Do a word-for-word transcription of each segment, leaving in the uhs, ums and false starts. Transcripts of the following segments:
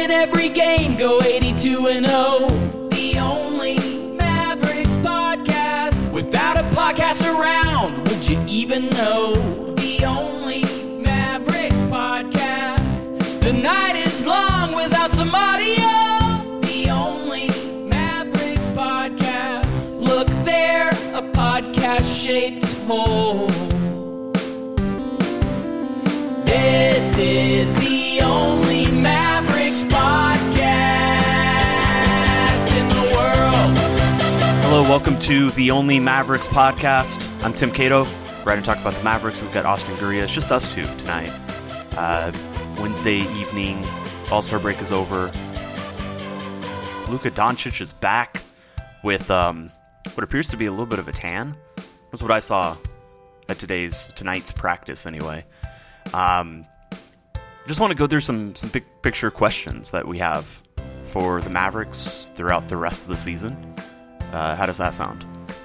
win every game, go eighty-two and oh. The only Mavericks podcast. Without a podcast around, would you even know? The only Mavericks podcast. The night is long without some audio. The only Mavericks podcast. Look there, a podcast-shaped hole. This is the only Mavericks podcast in the world. Hello, welcome to the only Mavericks podcast. I'm Tim Cato. We're going to talk about the Mavericks. We've got Austin Guria. It's just us two tonight. Uh, Wednesday evening, All-Star break is over. Luka Doncic is back with um, what appears to be a little bit of a tan. That's what I saw at today's tonight's practice anyway. Um, I just want to go through some, some big picture questions that we have for the Mavericks throughout the rest of the season. Uh, how does that sound?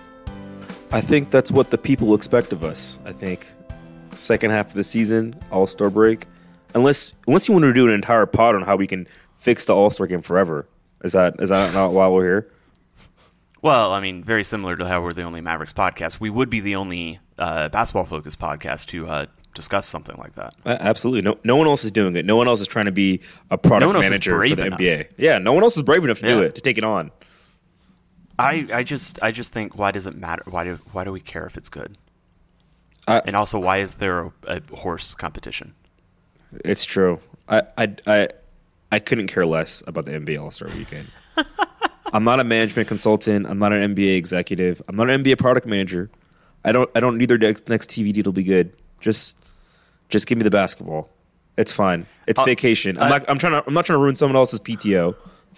I think that's what the people expect of us. I think second half of the season, All-Star break, unless unless you want to do an entire pod on how we can fix the All-Star game forever. Is that is that not why we're here? Well, I mean, very similar to how we're the only Mavericks podcast. We would be the only uh, basketball-focused podcast to uh, discuss something like that. Uh, absolutely. No no one else is doing it. No one else is trying to be a product no manager for the enough. N B A. Yeah, no one else is brave enough to yeah. do it, to take it on. I, I just I just think, why does it matter? Why do why do we care if it's good? I, and also, why is there a, a horse competition? It's true. I, I, I, I couldn't care less about the N B A All-Star Weekend. I'm not a management consultant. I'm not an N B A executive. I'm not an N B A product manager. I don't I don't need their next, next T V deal to be good. Just just give me the basketball. It's fine. It's uh, vacation. I'm uh, not I'm trying to I'm not trying to ruin someone else's P T O.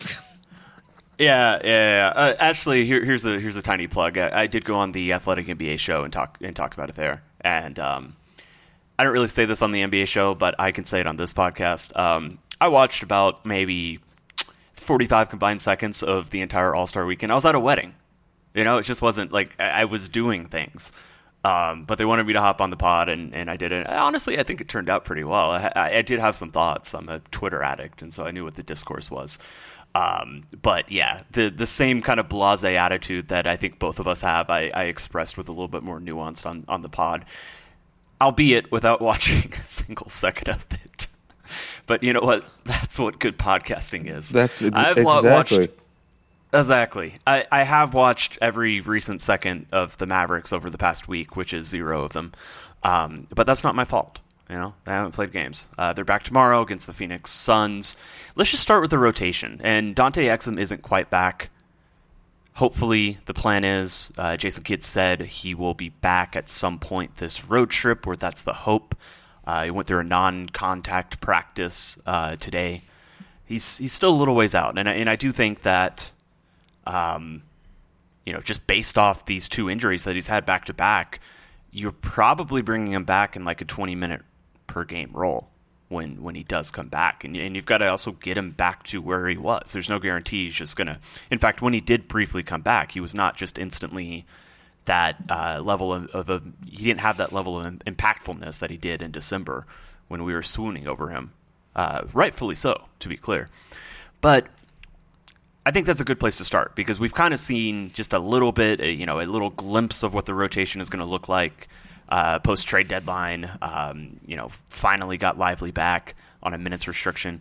Yeah, yeah, yeah. Uh, actually, here, here's a here's a tiny plug. I, I did go on the Athletic N B A show and talk and talk about it there. And um, I don't really say this on the N B A show, but I can say it on this podcast. Um, I watched about maybe forty-five combined seconds of the entire All-Star Weekend. I was at a wedding. You know, it just wasn't like I, I was doing things. Um, but they wanted me to hop on the pod, and, and I did it. Honestly, I think it turned out pretty well. I, I, I did have some thoughts. I'm a Twitter addict, and so I knew what the discourse was. Um, but yeah, the the same kind of blasé attitude that I think both of us have, I, I expressed with a little bit more nuance on, on the pod, albeit without watching a single second of it. But you know what? That's what good podcasting is. That's ex- I've exactly. Watched, exactly. I, I have watched every recent second of the Mavericks over the past week, which is zero of them. Um, but that's not my fault. You know, they haven't played games. Uh, they're back tomorrow against the Phoenix Suns. Let's just start with the rotation. And Dante Exum isn't quite back. Hopefully, the plan is, uh, Jason Kidd said he will be back at some point this road trip, or that's the hope. Uh, he went through a non-contact practice uh, today. He's he's still a little ways out. And I, and I do think that, um, you know, just based off these two injuries that he's had back-to-back, you're probably bringing him back in like a twenty-minute per game role when when he does come back. And, and you've got to also get him back to where he was. There's no guarantee he's just going to... In fact, when he did briefly come back, he was not just instantly that uh, level of... of a, he didn't have that level of impactfulness that he did in December when we were swooning over him. Uh, rightfully so, to be clear. But I think that's a good place to start because we've kind of seen just a little bit, you know, a little glimpse of what the rotation is going to look like uh, post-trade deadline. Um, you know, finally got Lively back on a minutes restriction.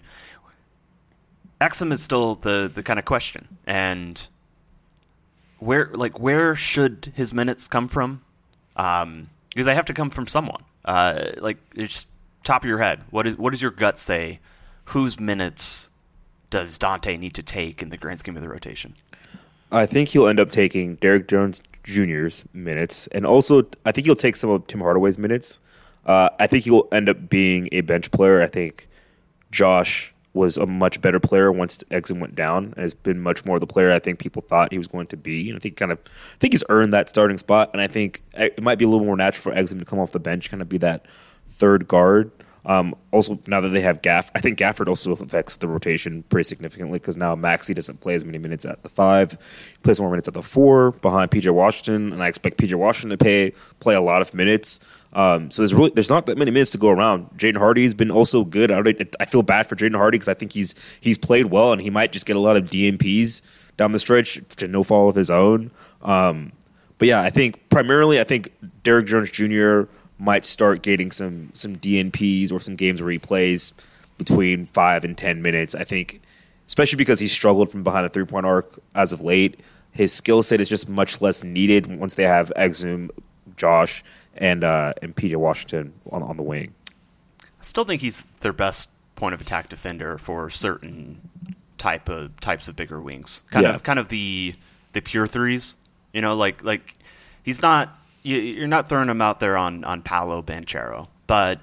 Exum is still the the kind of question, and where like where should his minutes come from? Um, because they have to come from someone. Uh, like it's top of your head. What is what does your gut say? Whose minutes does Dante need to take in the grand scheme of the rotation? I think he'll end up taking Derrick Jones Junior's minutes, and also I think he'll take some of Tim Hardaway's minutes. Uh, I think he'll end up being a bench player. I think Josh was a much better player once Exum went down, and has been much more the player I think people thought he was going to be. And I think kind of, I think he's earned that starting spot, and I think it might be a little more natural for Exum to come off the bench, kind of be that third guard. Um, also, now that they have Gaff, I think Gafford also affects the rotation pretty significantly because now Maxey doesn't play as many minutes at the five, he plays more minutes at the four behind P J Washington, and I expect P J Washington to pay, play a lot of minutes. Um, so there's really there's not that many minutes to go around. Jaden Hardy's been also good. I, I feel bad for Jaden Hardy because I think he's he's played well and he might just get a lot of D N Ps down the stretch to no fault of his own. Um, but yeah, I think primarily I think Derrick Jones Junior might start getting some some D N Ps or some games where he plays between five and ten minutes. I think, especially because he struggled from behind the three point arc as of late, his skill set is just much less needed once they have Exum, Josh, and uh, and P J Washington on on the wing. I still think he's their best point of attack defender for certain type of types of bigger wings. Kind Yeah. of kind of the the pure threes. You know, like like he's not. You're not throwing him out there on, on Paolo Banchero. But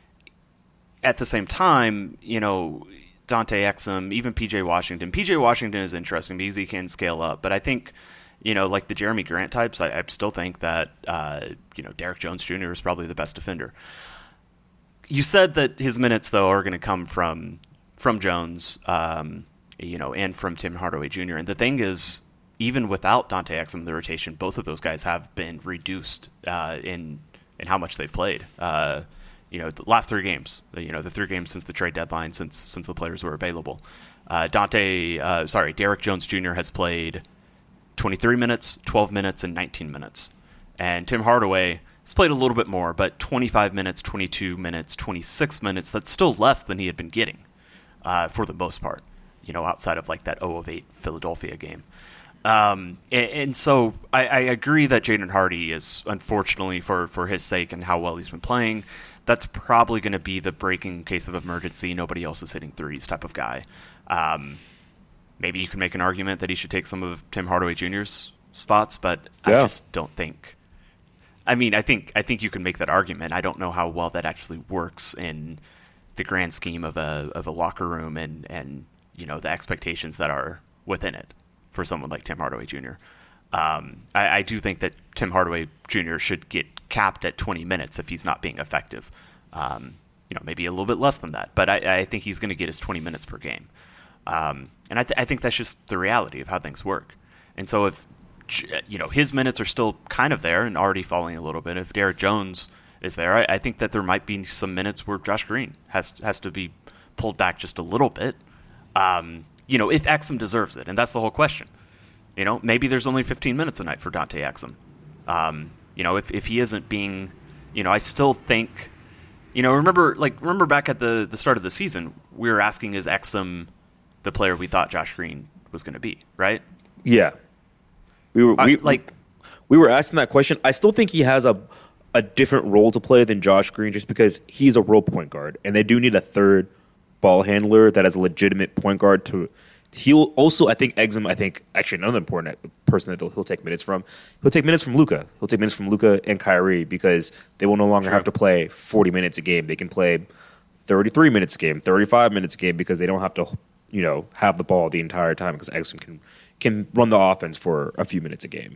at the same time, you know, Dante Exum, even P J Washington. P J Washington is interesting because he can scale up. But I think, you know, like the Jeremy Grant types, I, I still think that, uh, you know, Derrick Jones Junior is probably the best defender. You said that his minutes, though, are going to come from from Jones, um, you know, and from Tim Hardaway Junior And the thing is, even without Dante Exum in the rotation, both of those guys have been reduced uh, in in how much they've played. Uh, you know, the last three games. You know, the three games since the trade deadline, since since the players were available. Uh, Dante, uh, sorry, Derrick Jones Junior has played twenty-three minutes, twelve minutes, and nineteen minutes. And Tim Hardaway has played a little bit more, but twenty-five minutes, twenty-two minutes, twenty-six minutes. That's still less than he had been getting uh, for the most part. You know, outside of like that oh of eight Philadelphia game. Um, and, and so I, I agree that Jaden Hardy is, unfortunately, for, for his sake and how well he's been playing, that's probably going to be the breaking case of emergency. Nobody else is hitting threes type of guy. Um, maybe you can make an argument that he should take some of Tim Hardaway Junior's spots, but Yeah. I just don't think. I mean, I think I think you can make that argument. I don't know how well that actually works in the grand scheme of a of a locker room and, and you know the expectations that are within it. For someone like Tim Hardaway Junior Um, I, I do think that Tim Hardaway Junior should get capped at twenty minutes if he's not being effective. Um, you know, maybe a little bit less than that, but I, I think he's going to get his twenty minutes per game. Um, and I, th- I think that's just the reality of how things work. And so if, you know, his minutes are still kind of there and already falling a little bit, if Derrick Jones is there, I, I think that there might be some minutes where Josh Green has has to be pulled back just a little bit. Um, You know, if Exum deserves it, and that's the whole question. You know, maybe there's only fifteen minutes a night for Dante Exum. Um, you know, if if he isn't being, you know, I still think, you know, remember like remember back at the, the start of the season, we were asking, is Exum the player we thought Josh Green was going to be, right? Yeah, we were we, I, like we were asking that question. I still think he has a a different role to play than Josh Green, just because he's a role point guard, and they do need a third ball handler that has a legitimate point guard to. He'll also, I think, Exum, I think, actually another important person that he'll take minutes from. He'll take minutes from Luka. He'll take minutes from Luka and Kyrie because they will no longer True. have to play forty minutes a game. They can play thirty-three minutes a game, thirty-five minutes a game because they don't have to, you know, have the ball the entire time because Exum can can run the offense for a few minutes a game.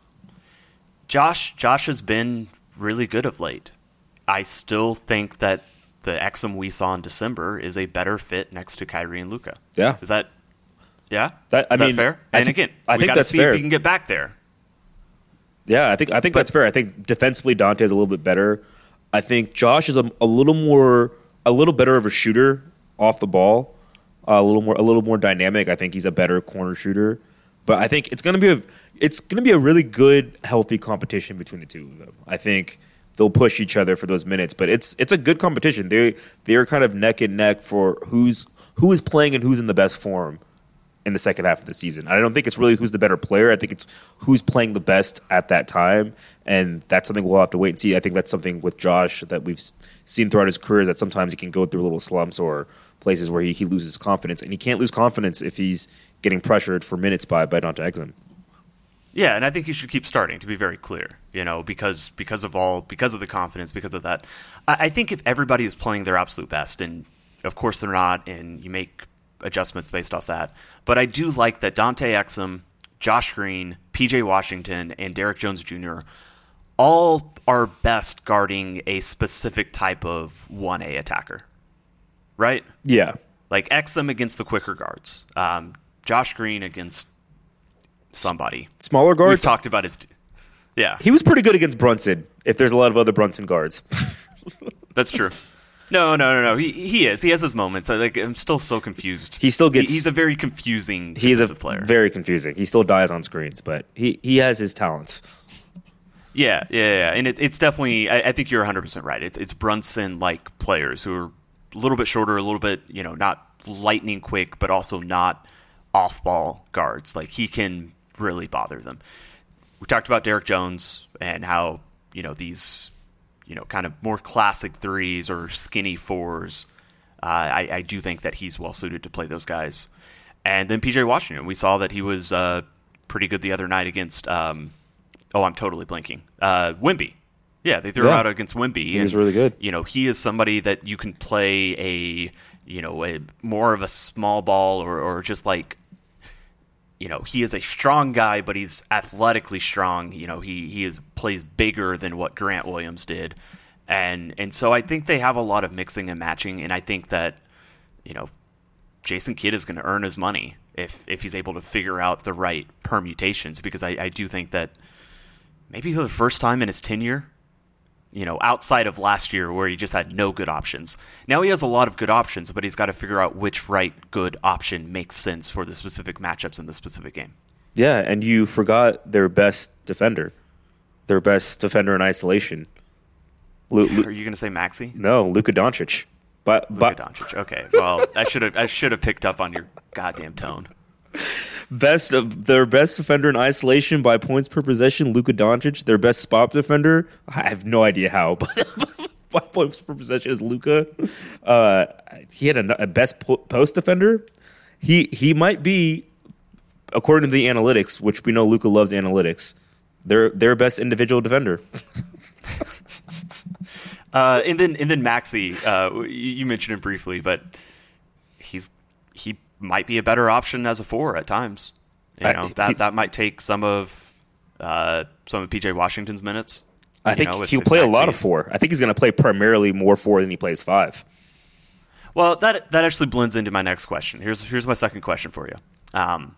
Josh, Josh has been really good of late. I still think that the Exum we saw in December is a better fit next to Kyrie and Luka. Yeah. Is that, yeah? That, I is mean, that fair? I And think- again, I we think got to that's see fair. if he can get back there. Yeah, I think I think But- that's fair. I think defensively Dante's a little bit better. I think Josh is a, a little more a little better of a shooter off the ball, uh, a little more a little more dynamic. I think he's a better corner shooter. But I think it's gonna be a it's gonna be a really good, healthy competition between the two of them. I think they'll push each other for those minutes, but it's it's a good competition. They they're kind of neck and neck for who's who is playing and who's in the best form in the second half of the season. I don't think it's really who's the better player. I think it's who's playing the best at that time, and that's something we'll have to wait and see. I think that's something with Josh that we've seen throughout his career, is that sometimes he can go through little slumps or places where he, he loses confidence, and he can't lose confidence if he's getting pressured for minutes by, by Dante Exum. Yeah, and I think he should keep starting, to be very clear, you know, because because of all, because of the confidence, because of that. I, I think if everybody is playing their absolute best, and of course they're not, and you make adjustments based off that, but I do like that Dante Exum, Josh Green, P J Washington, and Derrick Jones Junior all are best guarding a specific type of one A attacker, right? Yeah. Like Exum against the quicker guards. Um, Josh Green against somebody. Smaller guards? We've talked about his... Yeah. He was pretty good against Brunson, if there's a lot of other Brunson guards. That's true. No, no, no, no. He he is. He has his moments. I, like, I'm still so confused. He still gets... He, he's a very confusing He's a player. very confusing. He still dies on screens, but he, he has his talents. Yeah, yeah, yeah. And it, it's definitely... I, I think you're one hundred percent right. It's, it's Brunson-like players who are a little bit shorter, a little bit, you know, not lightning quick, but also not off-ball guards. Like, he can really bother them. We talked about Derek Jones and how, you know, these... you know, kind of more classic threes or skinny fours. Uh, I, I do think that he's well suited to play those guys. And then P J Washington, we saw that he was uh, pretty good the other night against, um, oh, I'm totally blanking, uh, Wemby. Yeah, they threw yeah. him out against Wemby. He was really good. You know, he is somebody that you can play a, you know, a more of a small ball or, or just like, you know, he is a strong guy, but he's athletically strong. You know, he he is plays bigger than what Grant Williams did, and and so I think they have a lot of mixing and matching. And I think that, you know, Jason Kidd is going to earn his money if if he's able to figure out the right permutations. Because I, I do think that maybe for the first time in his tenure, you know, outside of last year where he just had no good options. Now he has a lot of good options, but he's got to figure out which right good option makes sense for the specific matchups in the specific game. Yeah, and you forgot their best defender. Their best defender in isolation. Lu- Lu- Are you going to say Maxey? No, Luka Doncic. But, Luka but Doncic. Okay. Well, I should have I should have picked up on your goddamn tone. Best of their best defender in isolation by points per possession, Luka Doncic. Their best spot defender, I have no idea how, but by points per possession is Luka. Uh, he had a, a best po- post defender. He he might be, according to the analytics, which we know Luka loves analytics. Their their best individual defender. uh, and then and then Maxey, uh, you, you mentioned him briefly, but he's he. might be a better option as a four at times. You know, I, that he, that might take some of uh, some of P J Washington's minutes. I think know, if, he'll if play a Maxey's, lot of four. I think he's going to play primarily more four than he plays five. Well, that that actually blends into my next question. Here's here's my second question for you. Um,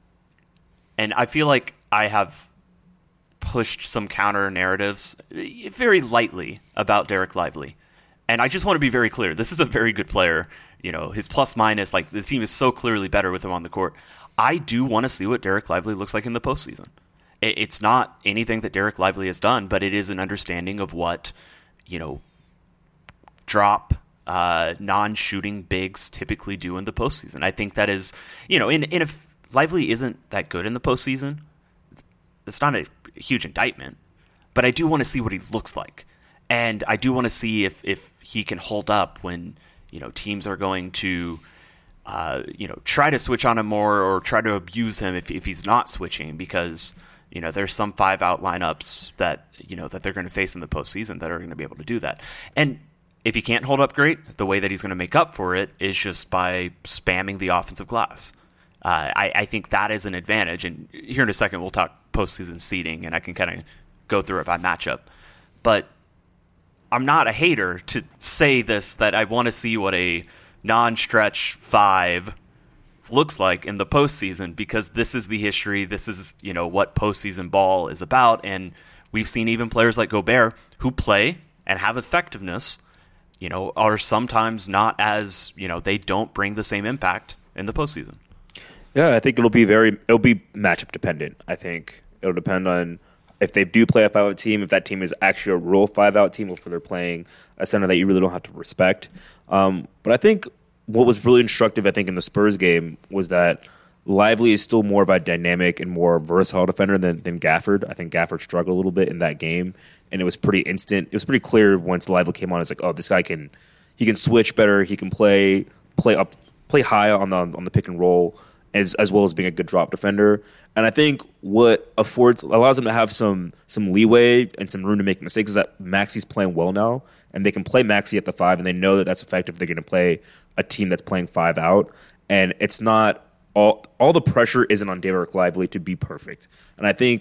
and I feel like I have pushed some counter narratives very lightly about Derek Lively. And I just want to be very clear. This is a very good player. You know, his plus minus, like the team is so clearly better with him on the court. I do want to see what Derek Lively looks like in the postseason. It's not anything that Derek Lively has done, but it is an understanding of what, you know, drop, uh, non-shooting bigs typically do in the postseason. I think that is, you know, and, and if Lively isn't that good in the postseason, it's not a huge indictment, but I do want to see what he looks like. And I do want to see if, if he can hold up when, you know, teams are going to, uh, you know, try to switch on him more or try to abuse him if if he's not switching, because, you know, there's some five out lineups that, you know, that they're going to face in the postseason that are going to be able to do that. And if he can't hold up great, the way that he's going to make up for it is just by spamming the offensive glass. Uh, I, I think that is an advantage. And here in a second, we'll talk postseason seeding, and I can kind of go through it by matchup. But I'm not a hater to say this, that I want to see what a non-stretch five looks like in the postseason, because this is the history. This is, you know, what postseason ball is about. And we've seen even players like Gobert who play and have effectiveness, you know, are sometimes not as, you know, they don't bring the same impact in the postseason. Yeah, I think it'll be very, it'll be matchup dependent. I think it'll depend on if they do play a five-out team, if that team is actually a real five-out team, or if they're playing a center that you really don't have to respect. Um, but I think what was really instructive, I think, in the Spurs game was that Lively is still more of a dynamic and more versatile defender than, than Gafford. I think Gafford struggled a little bit in that game, and it was pretty instant. It was pretty clear once Lively came on. It's like, oh, this guy can he can switch better. He can play play up, play high on the on the pick and roll, as as well as being a good drop defender. And I think what affords allows them to have some some leeway and some room to make mistakes is that Maxey's playing well now, and they can play Maxey at the five, and they know that that's effective. They're going to play a team that's playing five out, and it's not all all the pressure isn't on Derek Lively to be perfect. And I think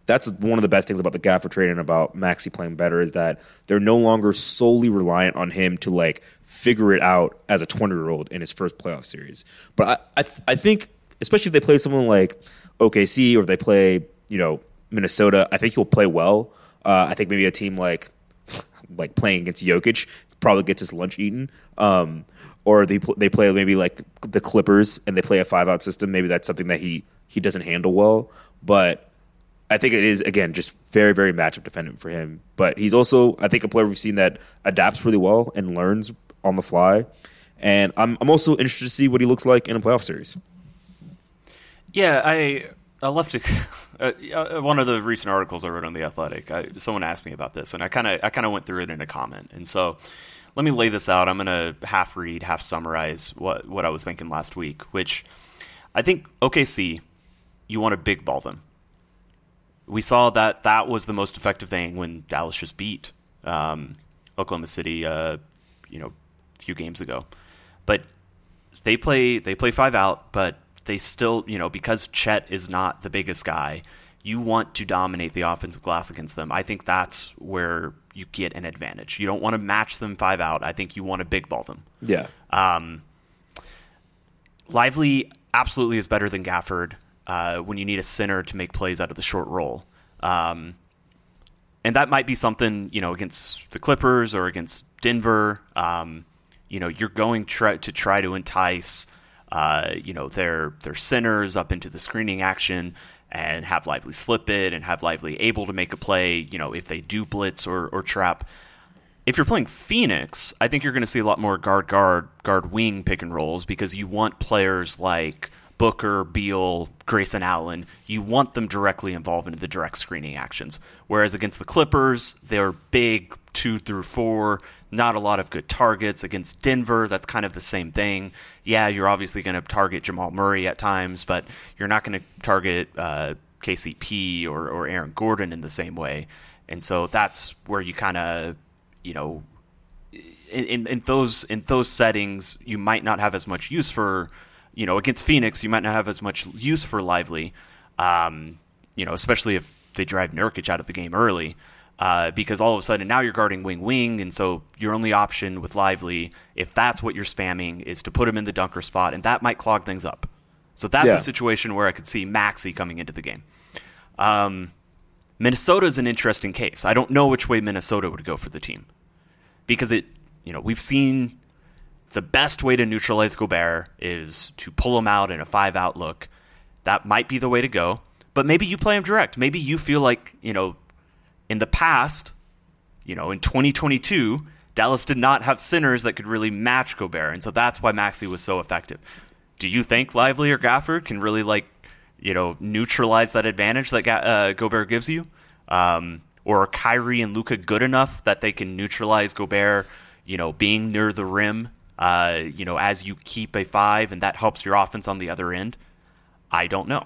that's one of the best things about the Gafford trade and about Maxey playing better is that they're no longer solely reliant on him to like figure it out as a twenty-year-old in his first playoff series. But I I, th- I think, especially if they play someone like O K C or if they play, you know, Minnesota, I think he'll play well. Uh, I think maybe a team like like playing against Jokic probably gets his lunch eaten. Um, or they pl- they play maybe like the Clippers and they play a five-out system. Maybe that's something that he he doesn't handle well. But I think it is, again, just very, very matchup dependent for him. But he's also, I think, a player we've seen that adapts really well and learns on the fly. And I'm I'm also interested to see what he looks like in a playoff series. Yeah, I I left a, uh, one of the recent articles I wrote on The Athletic. I, someone asked me about this, and I kind of I kind of went through it in a comment. And so let me lay this out. I'm going to half read, half summarize what, what I was thinking last week, which I think O K C, you want to big ball them. We saw that that was the most effective thing when Dallas just beat um, Oklahoma City, uh, you know, a few games ago. But they play they play five out, but they still, you know, because Chet is not the biggest guy, you want to dominate the offensive glass against them. I think that's where you get an advantage. You don't want to match them five out. I think you want to big ball them. Yeah. Um, Lively absolutely is better than Gafford. Uh, when you need a center to make plays out of the short roll. Um, and that might be something, you know, against the Clippers or against Denver. Um, you know, you're going try, to try to entice, uh, you know, their their centers up into the screening action and have Lively slip it and have Lively able to make a play, you know, if they do blitz or, or trap. If you're playing Phoenix, I think you're going to see a lot more guard-guard, guard-wing pick and rolls because you want players like Booker, Beal, Grayson Allen, you want them directly involved in the direct screening actions. Whereas against the Clippers, they're big two through four, not a lot of good targets. Against Denver, that's kind of the same thing. Yeah, you're obviously going to target Jamal Murray at times, but you're not going to target uh, K C P or, or Aaron Gordon in the same way. And so that's where you kind of, you know, in, in, in those in those settings, you might not have as much use for. You know, against Phoenix, you might not have as much use for Lively, um, you know, especially if they drive Nurkic out of the game early, uh, because all of a sudden now you're guarding wing-wing, and so your only option with Lively, if that's what you're spamming, is to put him in the dunker spot, and that might clog things up. So that's yeah. a situation where I could see Maxey coming into the game. Um, Minnesota is an interesting case. I don't know which way Minnesota would go for the team because it, you know, we've seen. The best way to neutralize Gobert is to pull him out in a five-out look. That might be the way to go. But maybe you play him direct. Maybe you feel like, you know, in the past, you know, in twenty twenty-two, Dallas did not have centers that could really match Gobert. And so that's why Maxey was so effective. Do you think Lively or Gafford can really, like, you know, neutralize that advantage that uh, Gobert gives you? Um, or are Kyrie and Luka good enough that they can neutralize Gobert, you know, being near the rim? Uh, you know, as you keep a five, and that helps your offense on the other end? I don't know.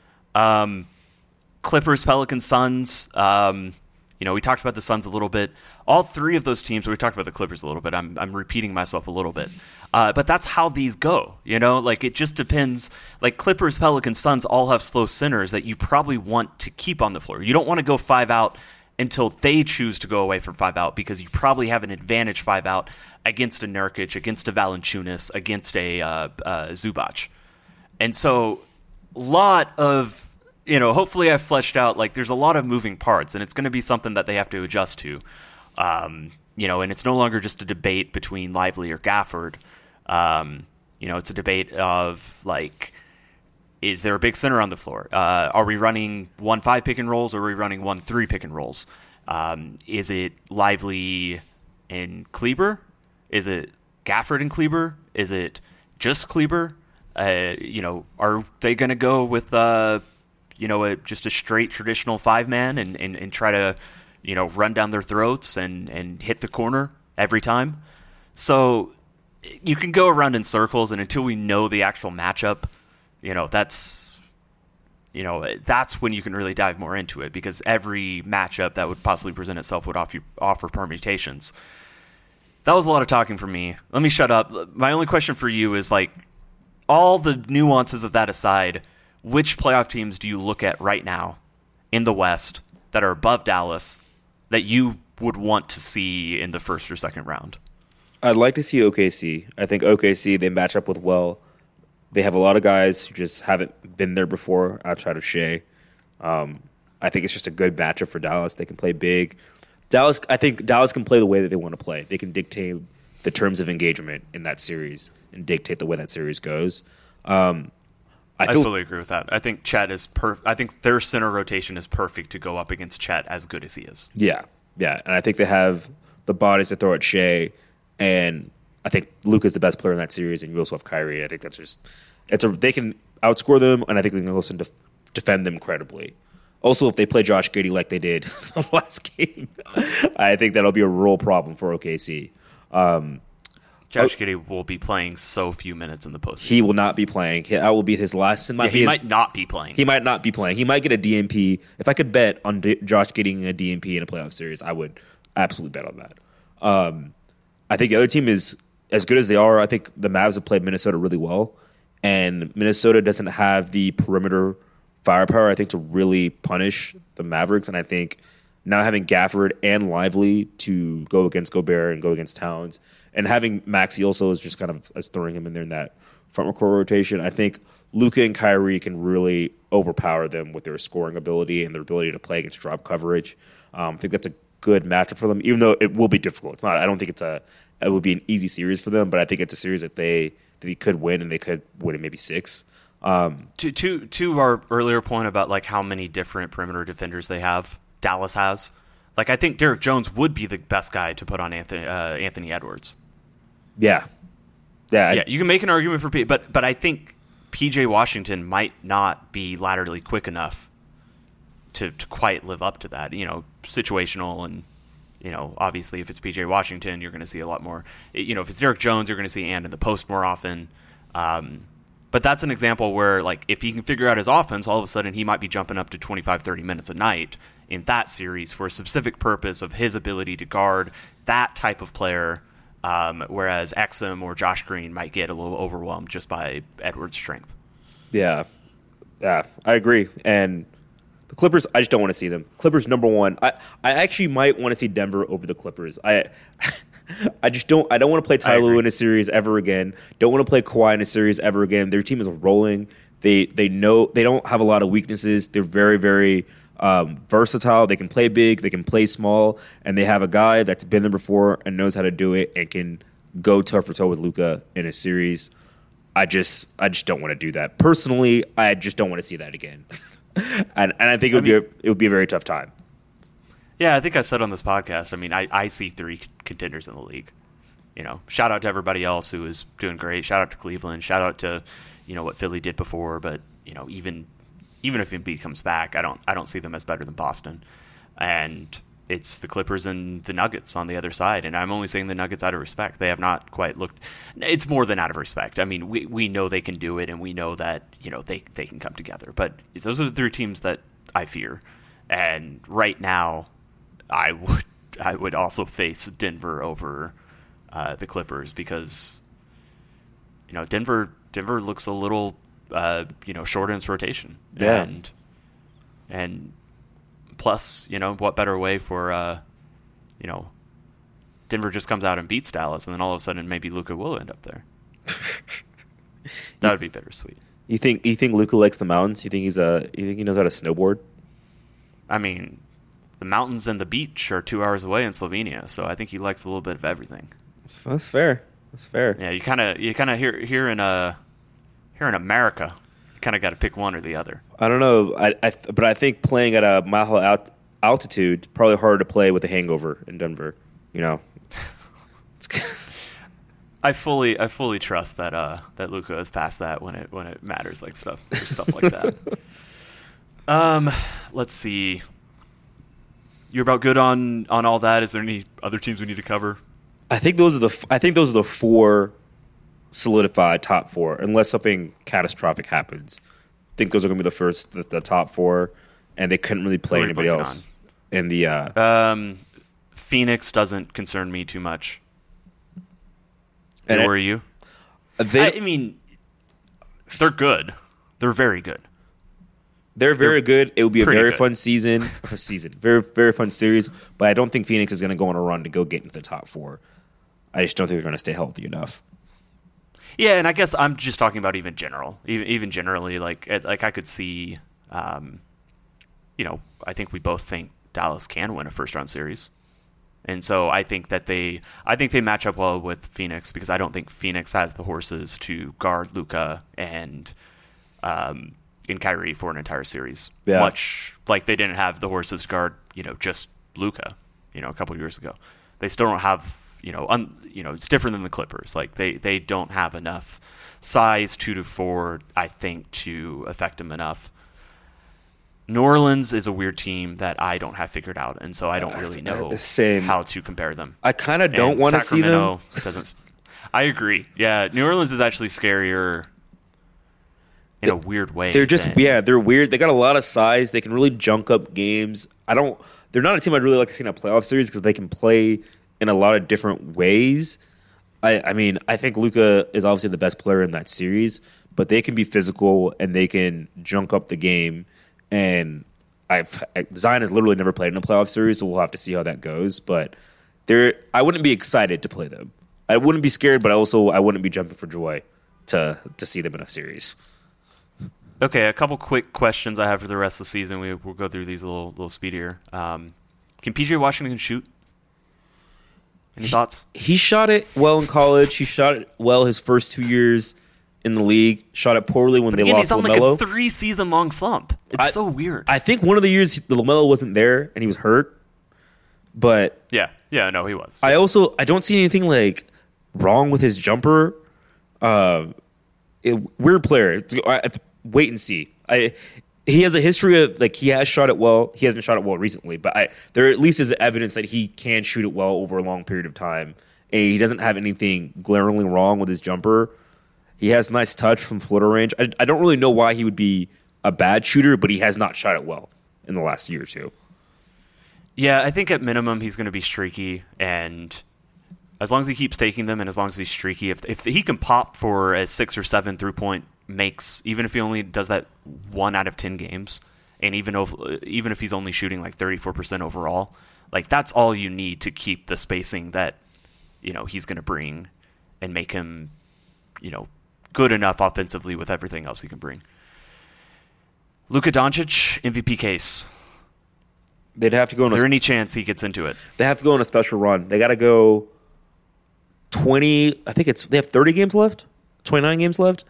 Um, Clippers, Pelicans, Suns. Um, you know, we talked about the Suns a little bit. All three of those teams, we talked about the Clippers a little bit. I'm I'm repeating myself a little bit. Uh, but that's how these go. You know, like it just depends. Like Clippers, Pelicans, Suns all have slow centers that you probably want to keep on the floor. You don't want to go five out until they choose to go away from five out because you probably have an advantage five out against a Nurkic, against a Valanciunas, against a uh, uh, Zubac. And so a lot of, you know, hopefully I've fleshed out, like there's a lot of moving parts and it's going to be something that they have to adjust to. Um, you know, and it's no longer just a debate between Lively or Gafford. Um, you know, it's a debate of like, is there a big center on the floor? Uh, are we running one five pick and rolls or are we running one three pick and rolls? Um, is it Lively and Kleber? Is it Gafford and Kleber? Is it just Kleber? Uh, you know, are they going to go with, uh, you know, a, just a straight traditional five-man and, and, and try to, you know, run down their throats and, and hit the corner every time? So you can go around in circles, and until we know the actual matchup, you know, that's, you know, that's when you can really dive more into it because every matchup that would possibly present itself would offer, offer permutations. That was a lot of talking from me. Let me shut up. My only question for you is, like, all the nuances of that aside, which playoff teams do you look at right now in the West that are above Dallas that you would want to see in the first or second round? I'd like to see O K C. I think O K C, they match up with well. They have a lot of guys who just haven't been there before outside of Shea. Um, I think it's just a good matchup for Dallas. They can play big. Dallas, I think Dallas can play the way that they want to play. They can dictate the terms of engagement in that series and dictate the way that series goes. Um, I, feel, I fully agree with that. I think Chet is perfect. I think their center rotation is perfect to go up against Chet as good as he is. Yeah, yeah. And I think they have the bodies to throw at Shea. And I think Luka's the best player in that series, and you also have Kyrie. I think that's just it's a they can outscore them, and I think they can also def- defend them credibly. Also, if they play Josh Giddey like they did the last game, I think that'll be a real problem for O K C. Um, Josh oh, Giddey will be playing so few minutes in the postseason. He will not be playing. That will be his last. Might yeah, be he his, might not be playing. He might not be playing. He might get a D N P. If I could bet on D- Josh getting a D N P in a playoff series, I would absolutely bet on that. Um, I think the other team is as good as they are. I think the Mavs have played Minnesota really well, and Minnesota doesn't have the perimeter firepower, I think, to really punish the Mavericks. And I think now having Gafford and Lively to go against Gobert and go against Towns, and having Maxey also is just kind of as throwing him in there in that front court rotation, I think Luka and Kyrie can really overpower them with their scoring ability and their ability to play against drop coverage. Um, I think that's a good matchup for them, even though it will be difficult. It's not. I don't think it's a. It would be an easy series for them, but I think it's a series that they that they could win, and they could win in maybe six. Um, to to to our earlier point about like how many different perimeter defenders they have, Dallas has. Like I think Derek Jones would be the best guy to put on Anthony uh, Anthony Edwards. Yeah, yeah, yeah. You can make an argument for P, but but I think P J Washington might not be laterally quick enough to to quite live up to that. You know, situational and. You know, obviously, if it's P J Washington, you're going to see a lot more. You know, if it's Derek Jones, you're going to see and in the post more often. Um, but that's an example where, like, if he can figure out his offense, all of a sudden he might be jumping up to twenty-five, thirty minutes a night in that series for a specific purpose of his ability to guard that type of player, um, whereas Exum or Josh Green might get a little overwhelmed just by Edwards' strength. Yeah, yeah, I agree. And the Clippers, I just don't want to see them. Clippers number one. I, I actually might want to see Denver over the Clippers. I I just don't I don't want to play Ty Lue in a series ever again. Don't want to play Kawhi in a series ever again. Their team is rolling. They they know they don't have a lot of weaknesses. They're very, very um, versatile. They can play big, they can play small, and they have a guy that's been there before and knows how to do it and can go toe for toe with Luka in a series. I just I just don't want to do that. Personally, I just don't want to see that again. And and I think it would I mean, be a, it would be a very tough time. Yeah, I think I said on this podcast. I mean, I, I see three contenders in the league. You know, shout out to everybody else who is doing great. Shout out to Cleveland. Shout out to you know what Philly did before. But you know, even even if Embiid comes back, I don't I don't see them as better than Boston. And it's the Clippers and the Nuggets on the other side. And I'm only saying the Nuggets out of respect. They have not quite looked. It's more than out of respect. I mean, we we know they can do it, and we know that you know they they can come together. But those are the three teams that I fear. And right now, I would I would also face Denver over uh, the Clippers because you know Denver Denver looks a little uh, you know short in its rotation. Yeah. And and plus, you know, what better way for, uh, you know, Denver just comes out and beats Dallas, and then all of a sudden maybe Luka will end up there. That would be bittersweet. You think you think Luka likes the mountains? You think he's a you think he knows how to snowboard? I mean, the mountains and the beach are two hours away in Slovenia, so I think he likes a little bit of everything. That's, that's fair. That's fair. Yeah, you kind of you kind of here here in uh here in America. Kind of got to pick one or the other. I don't know, I, I th- but I think playing at a mile high alt- altitude probably harder to play with a hangover in Denver. You know, I fully, I fully trust that uh, that Luka has passed that when it when it matters, like stuff, stuff like that. Um, let's see. You're about good on on all that. Is there any other teams we need to cover? I think those are the f- I think those are the four solidified top four, unless something catastrophic happens. I think those are going to be the first, the, the top four, and they couldn't really play anybody else. On? In the uh, um, Phoenix doesn't concern me too much. And who are you? They, I, I mean, they're good. They're very good. They're very They're good. It will be a pretty very good. fun season. Or season. Very, very fun series. But I don't think Phoenix is going to go on a run to go get into the top four. I just don't think they're going to stay healthy enough. Yeah, and I guess I'm just talking about even general, even even generally, like it- like I could see, um, you know, I think we both think Dallas can win a first round series, and so I think that they, I think they match up well with Phoenix because I don't think Phoenix has the horses to guard Luka and, um, in Kyrie for an entire series. Yeah. Much like they didn't have the horses to guard, you know, just Luka, you know, a couple years ago. They still don't have. You know, un, you know, it's different than the Clippers. Like they, they don't have enough size two to four, I think, to affect them enough. New Orleans is a weird team that I don't have figured out, and so I don't really know Same. how to compare them. I kind of don't want to see them. Doesn't. I agree. Yeah, New Orleans is actually scarier in a weird way. They're just than, yeah, they're weird. They got a lot of size. They can really junk up games. I don't. They're not a team I'd really like to see in a playoff series because they can play in a lot of different ways. I, I mean, I think Luka is obviously the best player in that series, but they can be physical and they can junk up the game. And I've Zion has literally never played in a playoff series, so we'll have to see how that goes. But they're, I wouldn't be excited to play them. I wouldn't be scared, but also I wouldn't be jumping for joy to to see them in a series. Okay, a couple quick questions I have for the rest of the season. We, we'll go through these a little, little speedier. Um, can P J Washington shoot? Any thoughts? He shot it well in college. He shot it well his first two years in the league. Shot it poorly when But they again, lost he's on LaMelo. like a three-season-long slump. It's I- so weird. I think one of the years the LaMelo wasn't there and he was hurt. But yeah, yeah, no, he was. I also I don't see anything like wrong with his jumper. Uh, it, weird player. It's, I, I- wait and see. I he has a history of like he has shot it well. He hasn't shot it well recently, but I there at least is evidence that he can shoot it well over a long period of time. And he doesn't have anything glaringly wrong with his jumper. He has nice touch from floater range. I, I don't really know why he would be a bad shooter, but he has not shot it well in the last year or two. Yeah, I think at minimum he's going to be streaky, and as long as he keeps taking them, and as long as he's streaky, if if he can pop for a six or seven three point makes, even if he only does that one out of ten games, and even if even if he's only shooting like thirty four percent overall, like that's all you need to keep the spacing that you know he's going to bring, and make him, you know, good enough offensively with everything else he can bring. Luka Doncic M V P case. They'd have to go. Is On there a, any chance he gets into it? They have to go on a special run. They got to go twenty. I think it's they have thirty games left. Twenty nine games left.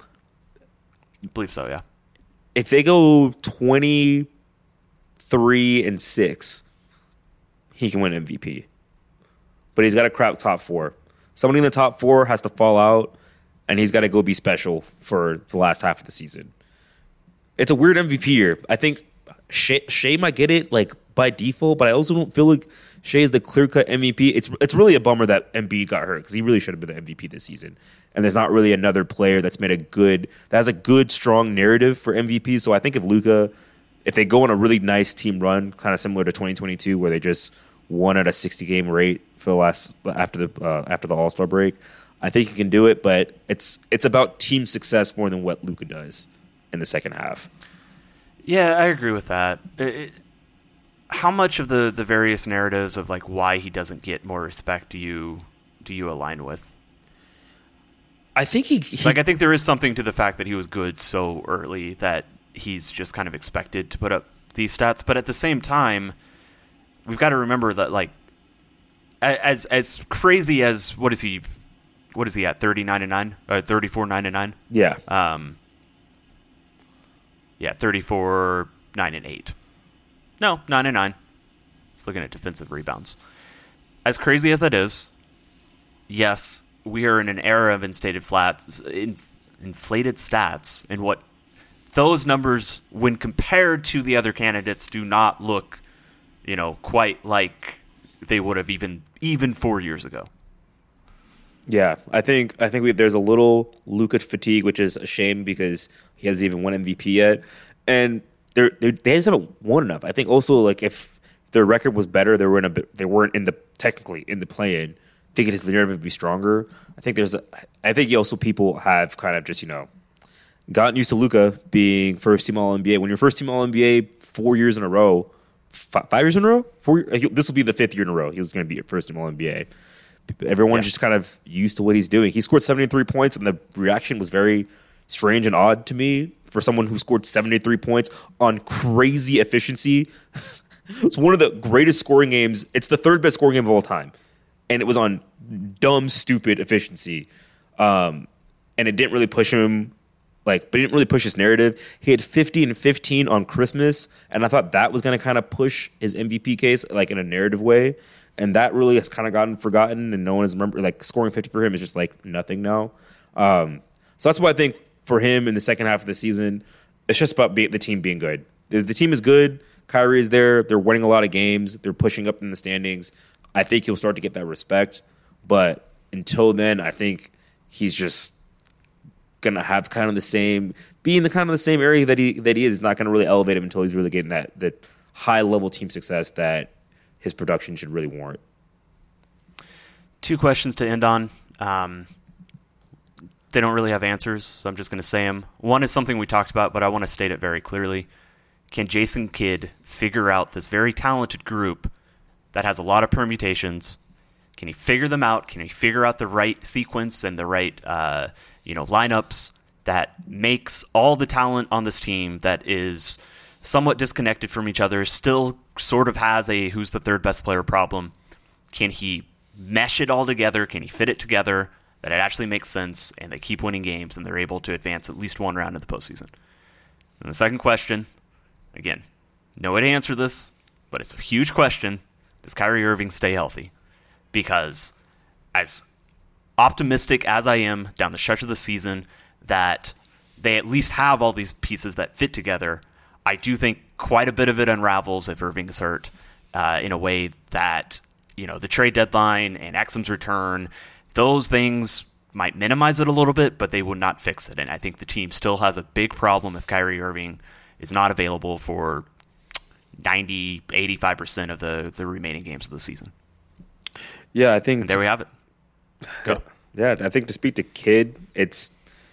I believe so. Yeah. If they go twenty three and six, he can win M V P. But he's got to crack top four. Somebody in the top four has to fall out, and he's got to go be special for the last half of the season. It's a weird M V P year. I think Shea, Shea might get it like by default, but I also don't feel like Shea is the clear-cut M V P. It's it's really a bummer that Embiid got hurt because he really should have been the M V P this season. And there's not really another player that's made a good that has a good, strong narrative for M V P. So I think if Luka, if they go on a really nice team run, kind of similar to twenty twenty-two, where they just won at a sixty-game rate for the last after the uh, after the All-Star break, I think he can do it. But it's it's about team success more than what Luka does in the second half. Yeah, I agree with that. It, it, how much of the, the various narratives of like why he doesn't get more respect do you do you align with? I think he, he like I think there is something to the fact that he was good so early that he's just kind of expected to put up these stats. But at the same time, we've got to remember that like as as crazy as what is he what is he at thirty nine and nine or thirty four nine and nine? yeah. Um. Yeah, thirty-four, nine, and eight. No, nine and nine. It's looking at defensive rebounds. As crazy as that is, yes, we are in an era of inflated flats, in, inflated stats, and what those numbers, when compared to the other candidates, do not look, you know, quite like they would have even even four years ago. Yeah, I think I think we, there's a little Luka fatigue, which is a shame because he hasn't even won M V P yet, and they're, they're, they just haven't won enough. I think also like if their record was better, they were in a they weren't in the technically in the play-in. I think his narrative would be stronger. I think there's a, I think also people have kind of just you know gotten used to Luka being first team All N B A. When you're first team All N B A four years in a row, five, five years in a row, four. This will be the fifth year in a row. He was going to be first team All N B A. Everyone's yeah. just kind of used to what he's doing. He scored seventy-three points, and the reaction was very strange and odd to me for someone who scored seventy-three points on crazy efficiency. It's one of the greatest scoring games. It's the third best scoring game of all time, and it was on dumb, stupid efficiency. Um, and it didn't really push him, like, but it didn't really push his narrative. He had fifty and fifteen on Christmas, and I thought that was going to kind of push his M V P case, like, in a narrative way. And that really has kind of gotten forgotten, and no one has remembered. Like, scoring fifty for him is just like nothing now. Um, so that's why I think for him in the second half of the season, it's just about be, the team being good. The, the team is good. Kyrie is there. They're winning a lot of games. They're pushing up in the standings. I think he'll start to get that respect. But until then, I think he's just gonna have kind of the same, be in the kind of the same area that he that he is. It's not gonna really elevate him until he's really getting that that high level team success that his production should really warrant. Two questions to end on. Um, they don't really have answers, so I'm just going to say them. One is something we talked about, but I want to state it very clearly. Can Jason Kidd figure out this very talented group that has a lot of permutations? Can he figure them out? Can he figure out the right sequence and the right uh, you know, lineups that makes all the talent on this team that is somewhat disconnected from each other, still sort of has a who's the third best player problem? Can he mesh it all together? Can he fit it together that it actually makes sense and they keep winning games and they're able to advance at least one round in the postseason? And the second question, again, no way to answer this, but it's a huge question. Does Kyrie Irving stay healthy? Because as optimistic as I am down the stretch of the season that they at least have all these pieces that fit together, I do think quite a bit of it unravels if Irving is hurt uh, in a way that, you know, the trade deadline and Exum's return, those things might minimize it a little bit, but they would not fix it. And I think the team still has a big problem if Kyrie Irving is not available for ninety, eighty-five percent of the, the remaining games of the season. Yeah, I think... And there we have it. Go. Yeah, I think to speak to Kidd, it's...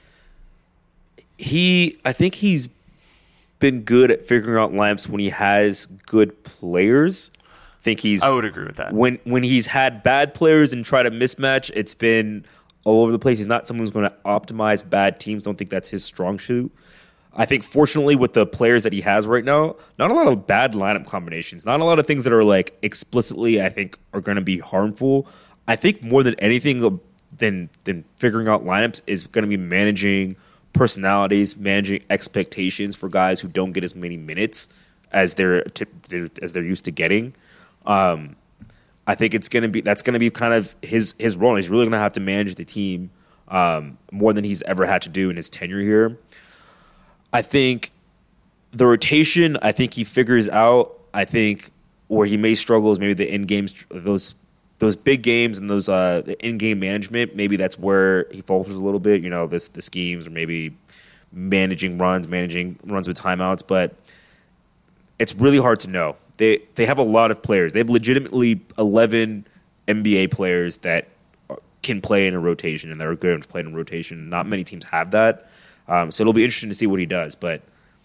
He... I think he's been good at figuring out lineups when he has good players. I think he's... I would agree with that. When when he's had bad players and try to mismatch, it's been all over the place. He's not someone who's going to optimize bad teams. Don't think that's his strong suit. I think, fortunately, with the players that he has right now, not a lot of bad lineup combinations. Not a lot of things that are, like, explicitly, I think, are going to be harmful. I think more than anything than, than figuring out lineups is going to be managing personalities, managing expectations for guys who don't get as many minutes as they're t- as they're used to getting. Um, I think it's gonna be that's gonna be kind of his his role. He's really gonna have to manage the team um, more than he's ever had to do in his tenure here. I think the rotation, I think he figures out. I think where he may struggle is maybe the in games, those those big games and those uh, in game management. Maybe that's where he falters a little bit. You know, this the schemes or maybe managing runs, managing runs with timeouts. But it's really hard to know. They they have a lot of players. They have legitimately eleven N B A players that can play in a rotation and that are good at playing in a rotation. Not many teams have that. Um, so it'll be interesting to see what he does. But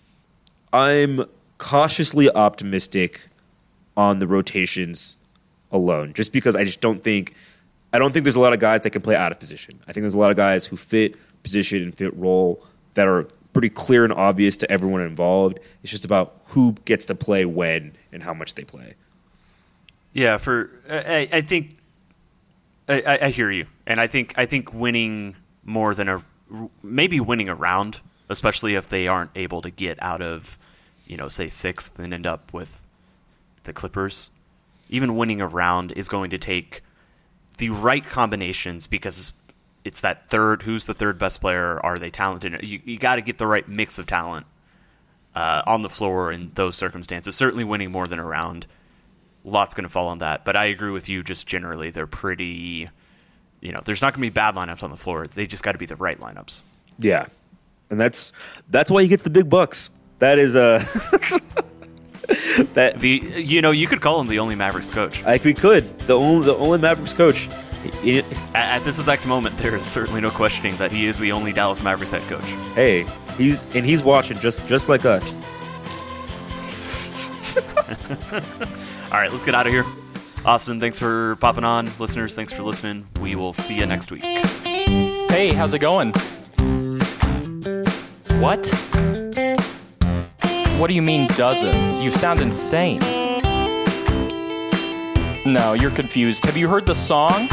I'm cautiously optimistic on the rotations alone, just because I just don't think I don't think there's a lot of guys that can play out of position. I think there's a lot of guys who fit position and fit role that are pretty clear and obvious to everyone involved. It's just about who gets to play when and how much they play. Yeah, for I, I think I, I hear you, and I think I think winning more than a maybe winning a round, especially if they aren't able to get out of, you know, say sixth and end up with the Clippers. Even winning a round is going to take the right combinations because it's that third. Who's the third best player? Are they talented? You you got to get the right mix of talent uh, on the floor in those circumstances. Certainly, winning more than a round, lots going to fall on that. But I agree with you. Just generally, they're pretty. You know, there's not going to be bad lineups on the floor. They just got to be the right lineups. Yeah, and that's that's why he gets the big bucks. That is a. that the you know you could call him the only Mavericks coach. Like we could the only the only Mavericks coach. At, at this exact moment, there is certainly no questioning that he is the only Dallas Mavericks head coach. Hey, He's and he's watching just just like us. All right, let's get out of here. Austin, thanks for popping on. Listeners, thanks for listening. We will see you next week. Hey, how's it going? What? What do you mean dozens? You sound insane. No, you're confused. Have you heard the song?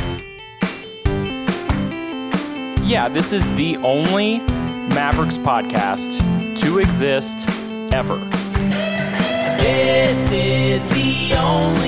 Yeah, this is the only Mavericks podcast to exist ever. This is the only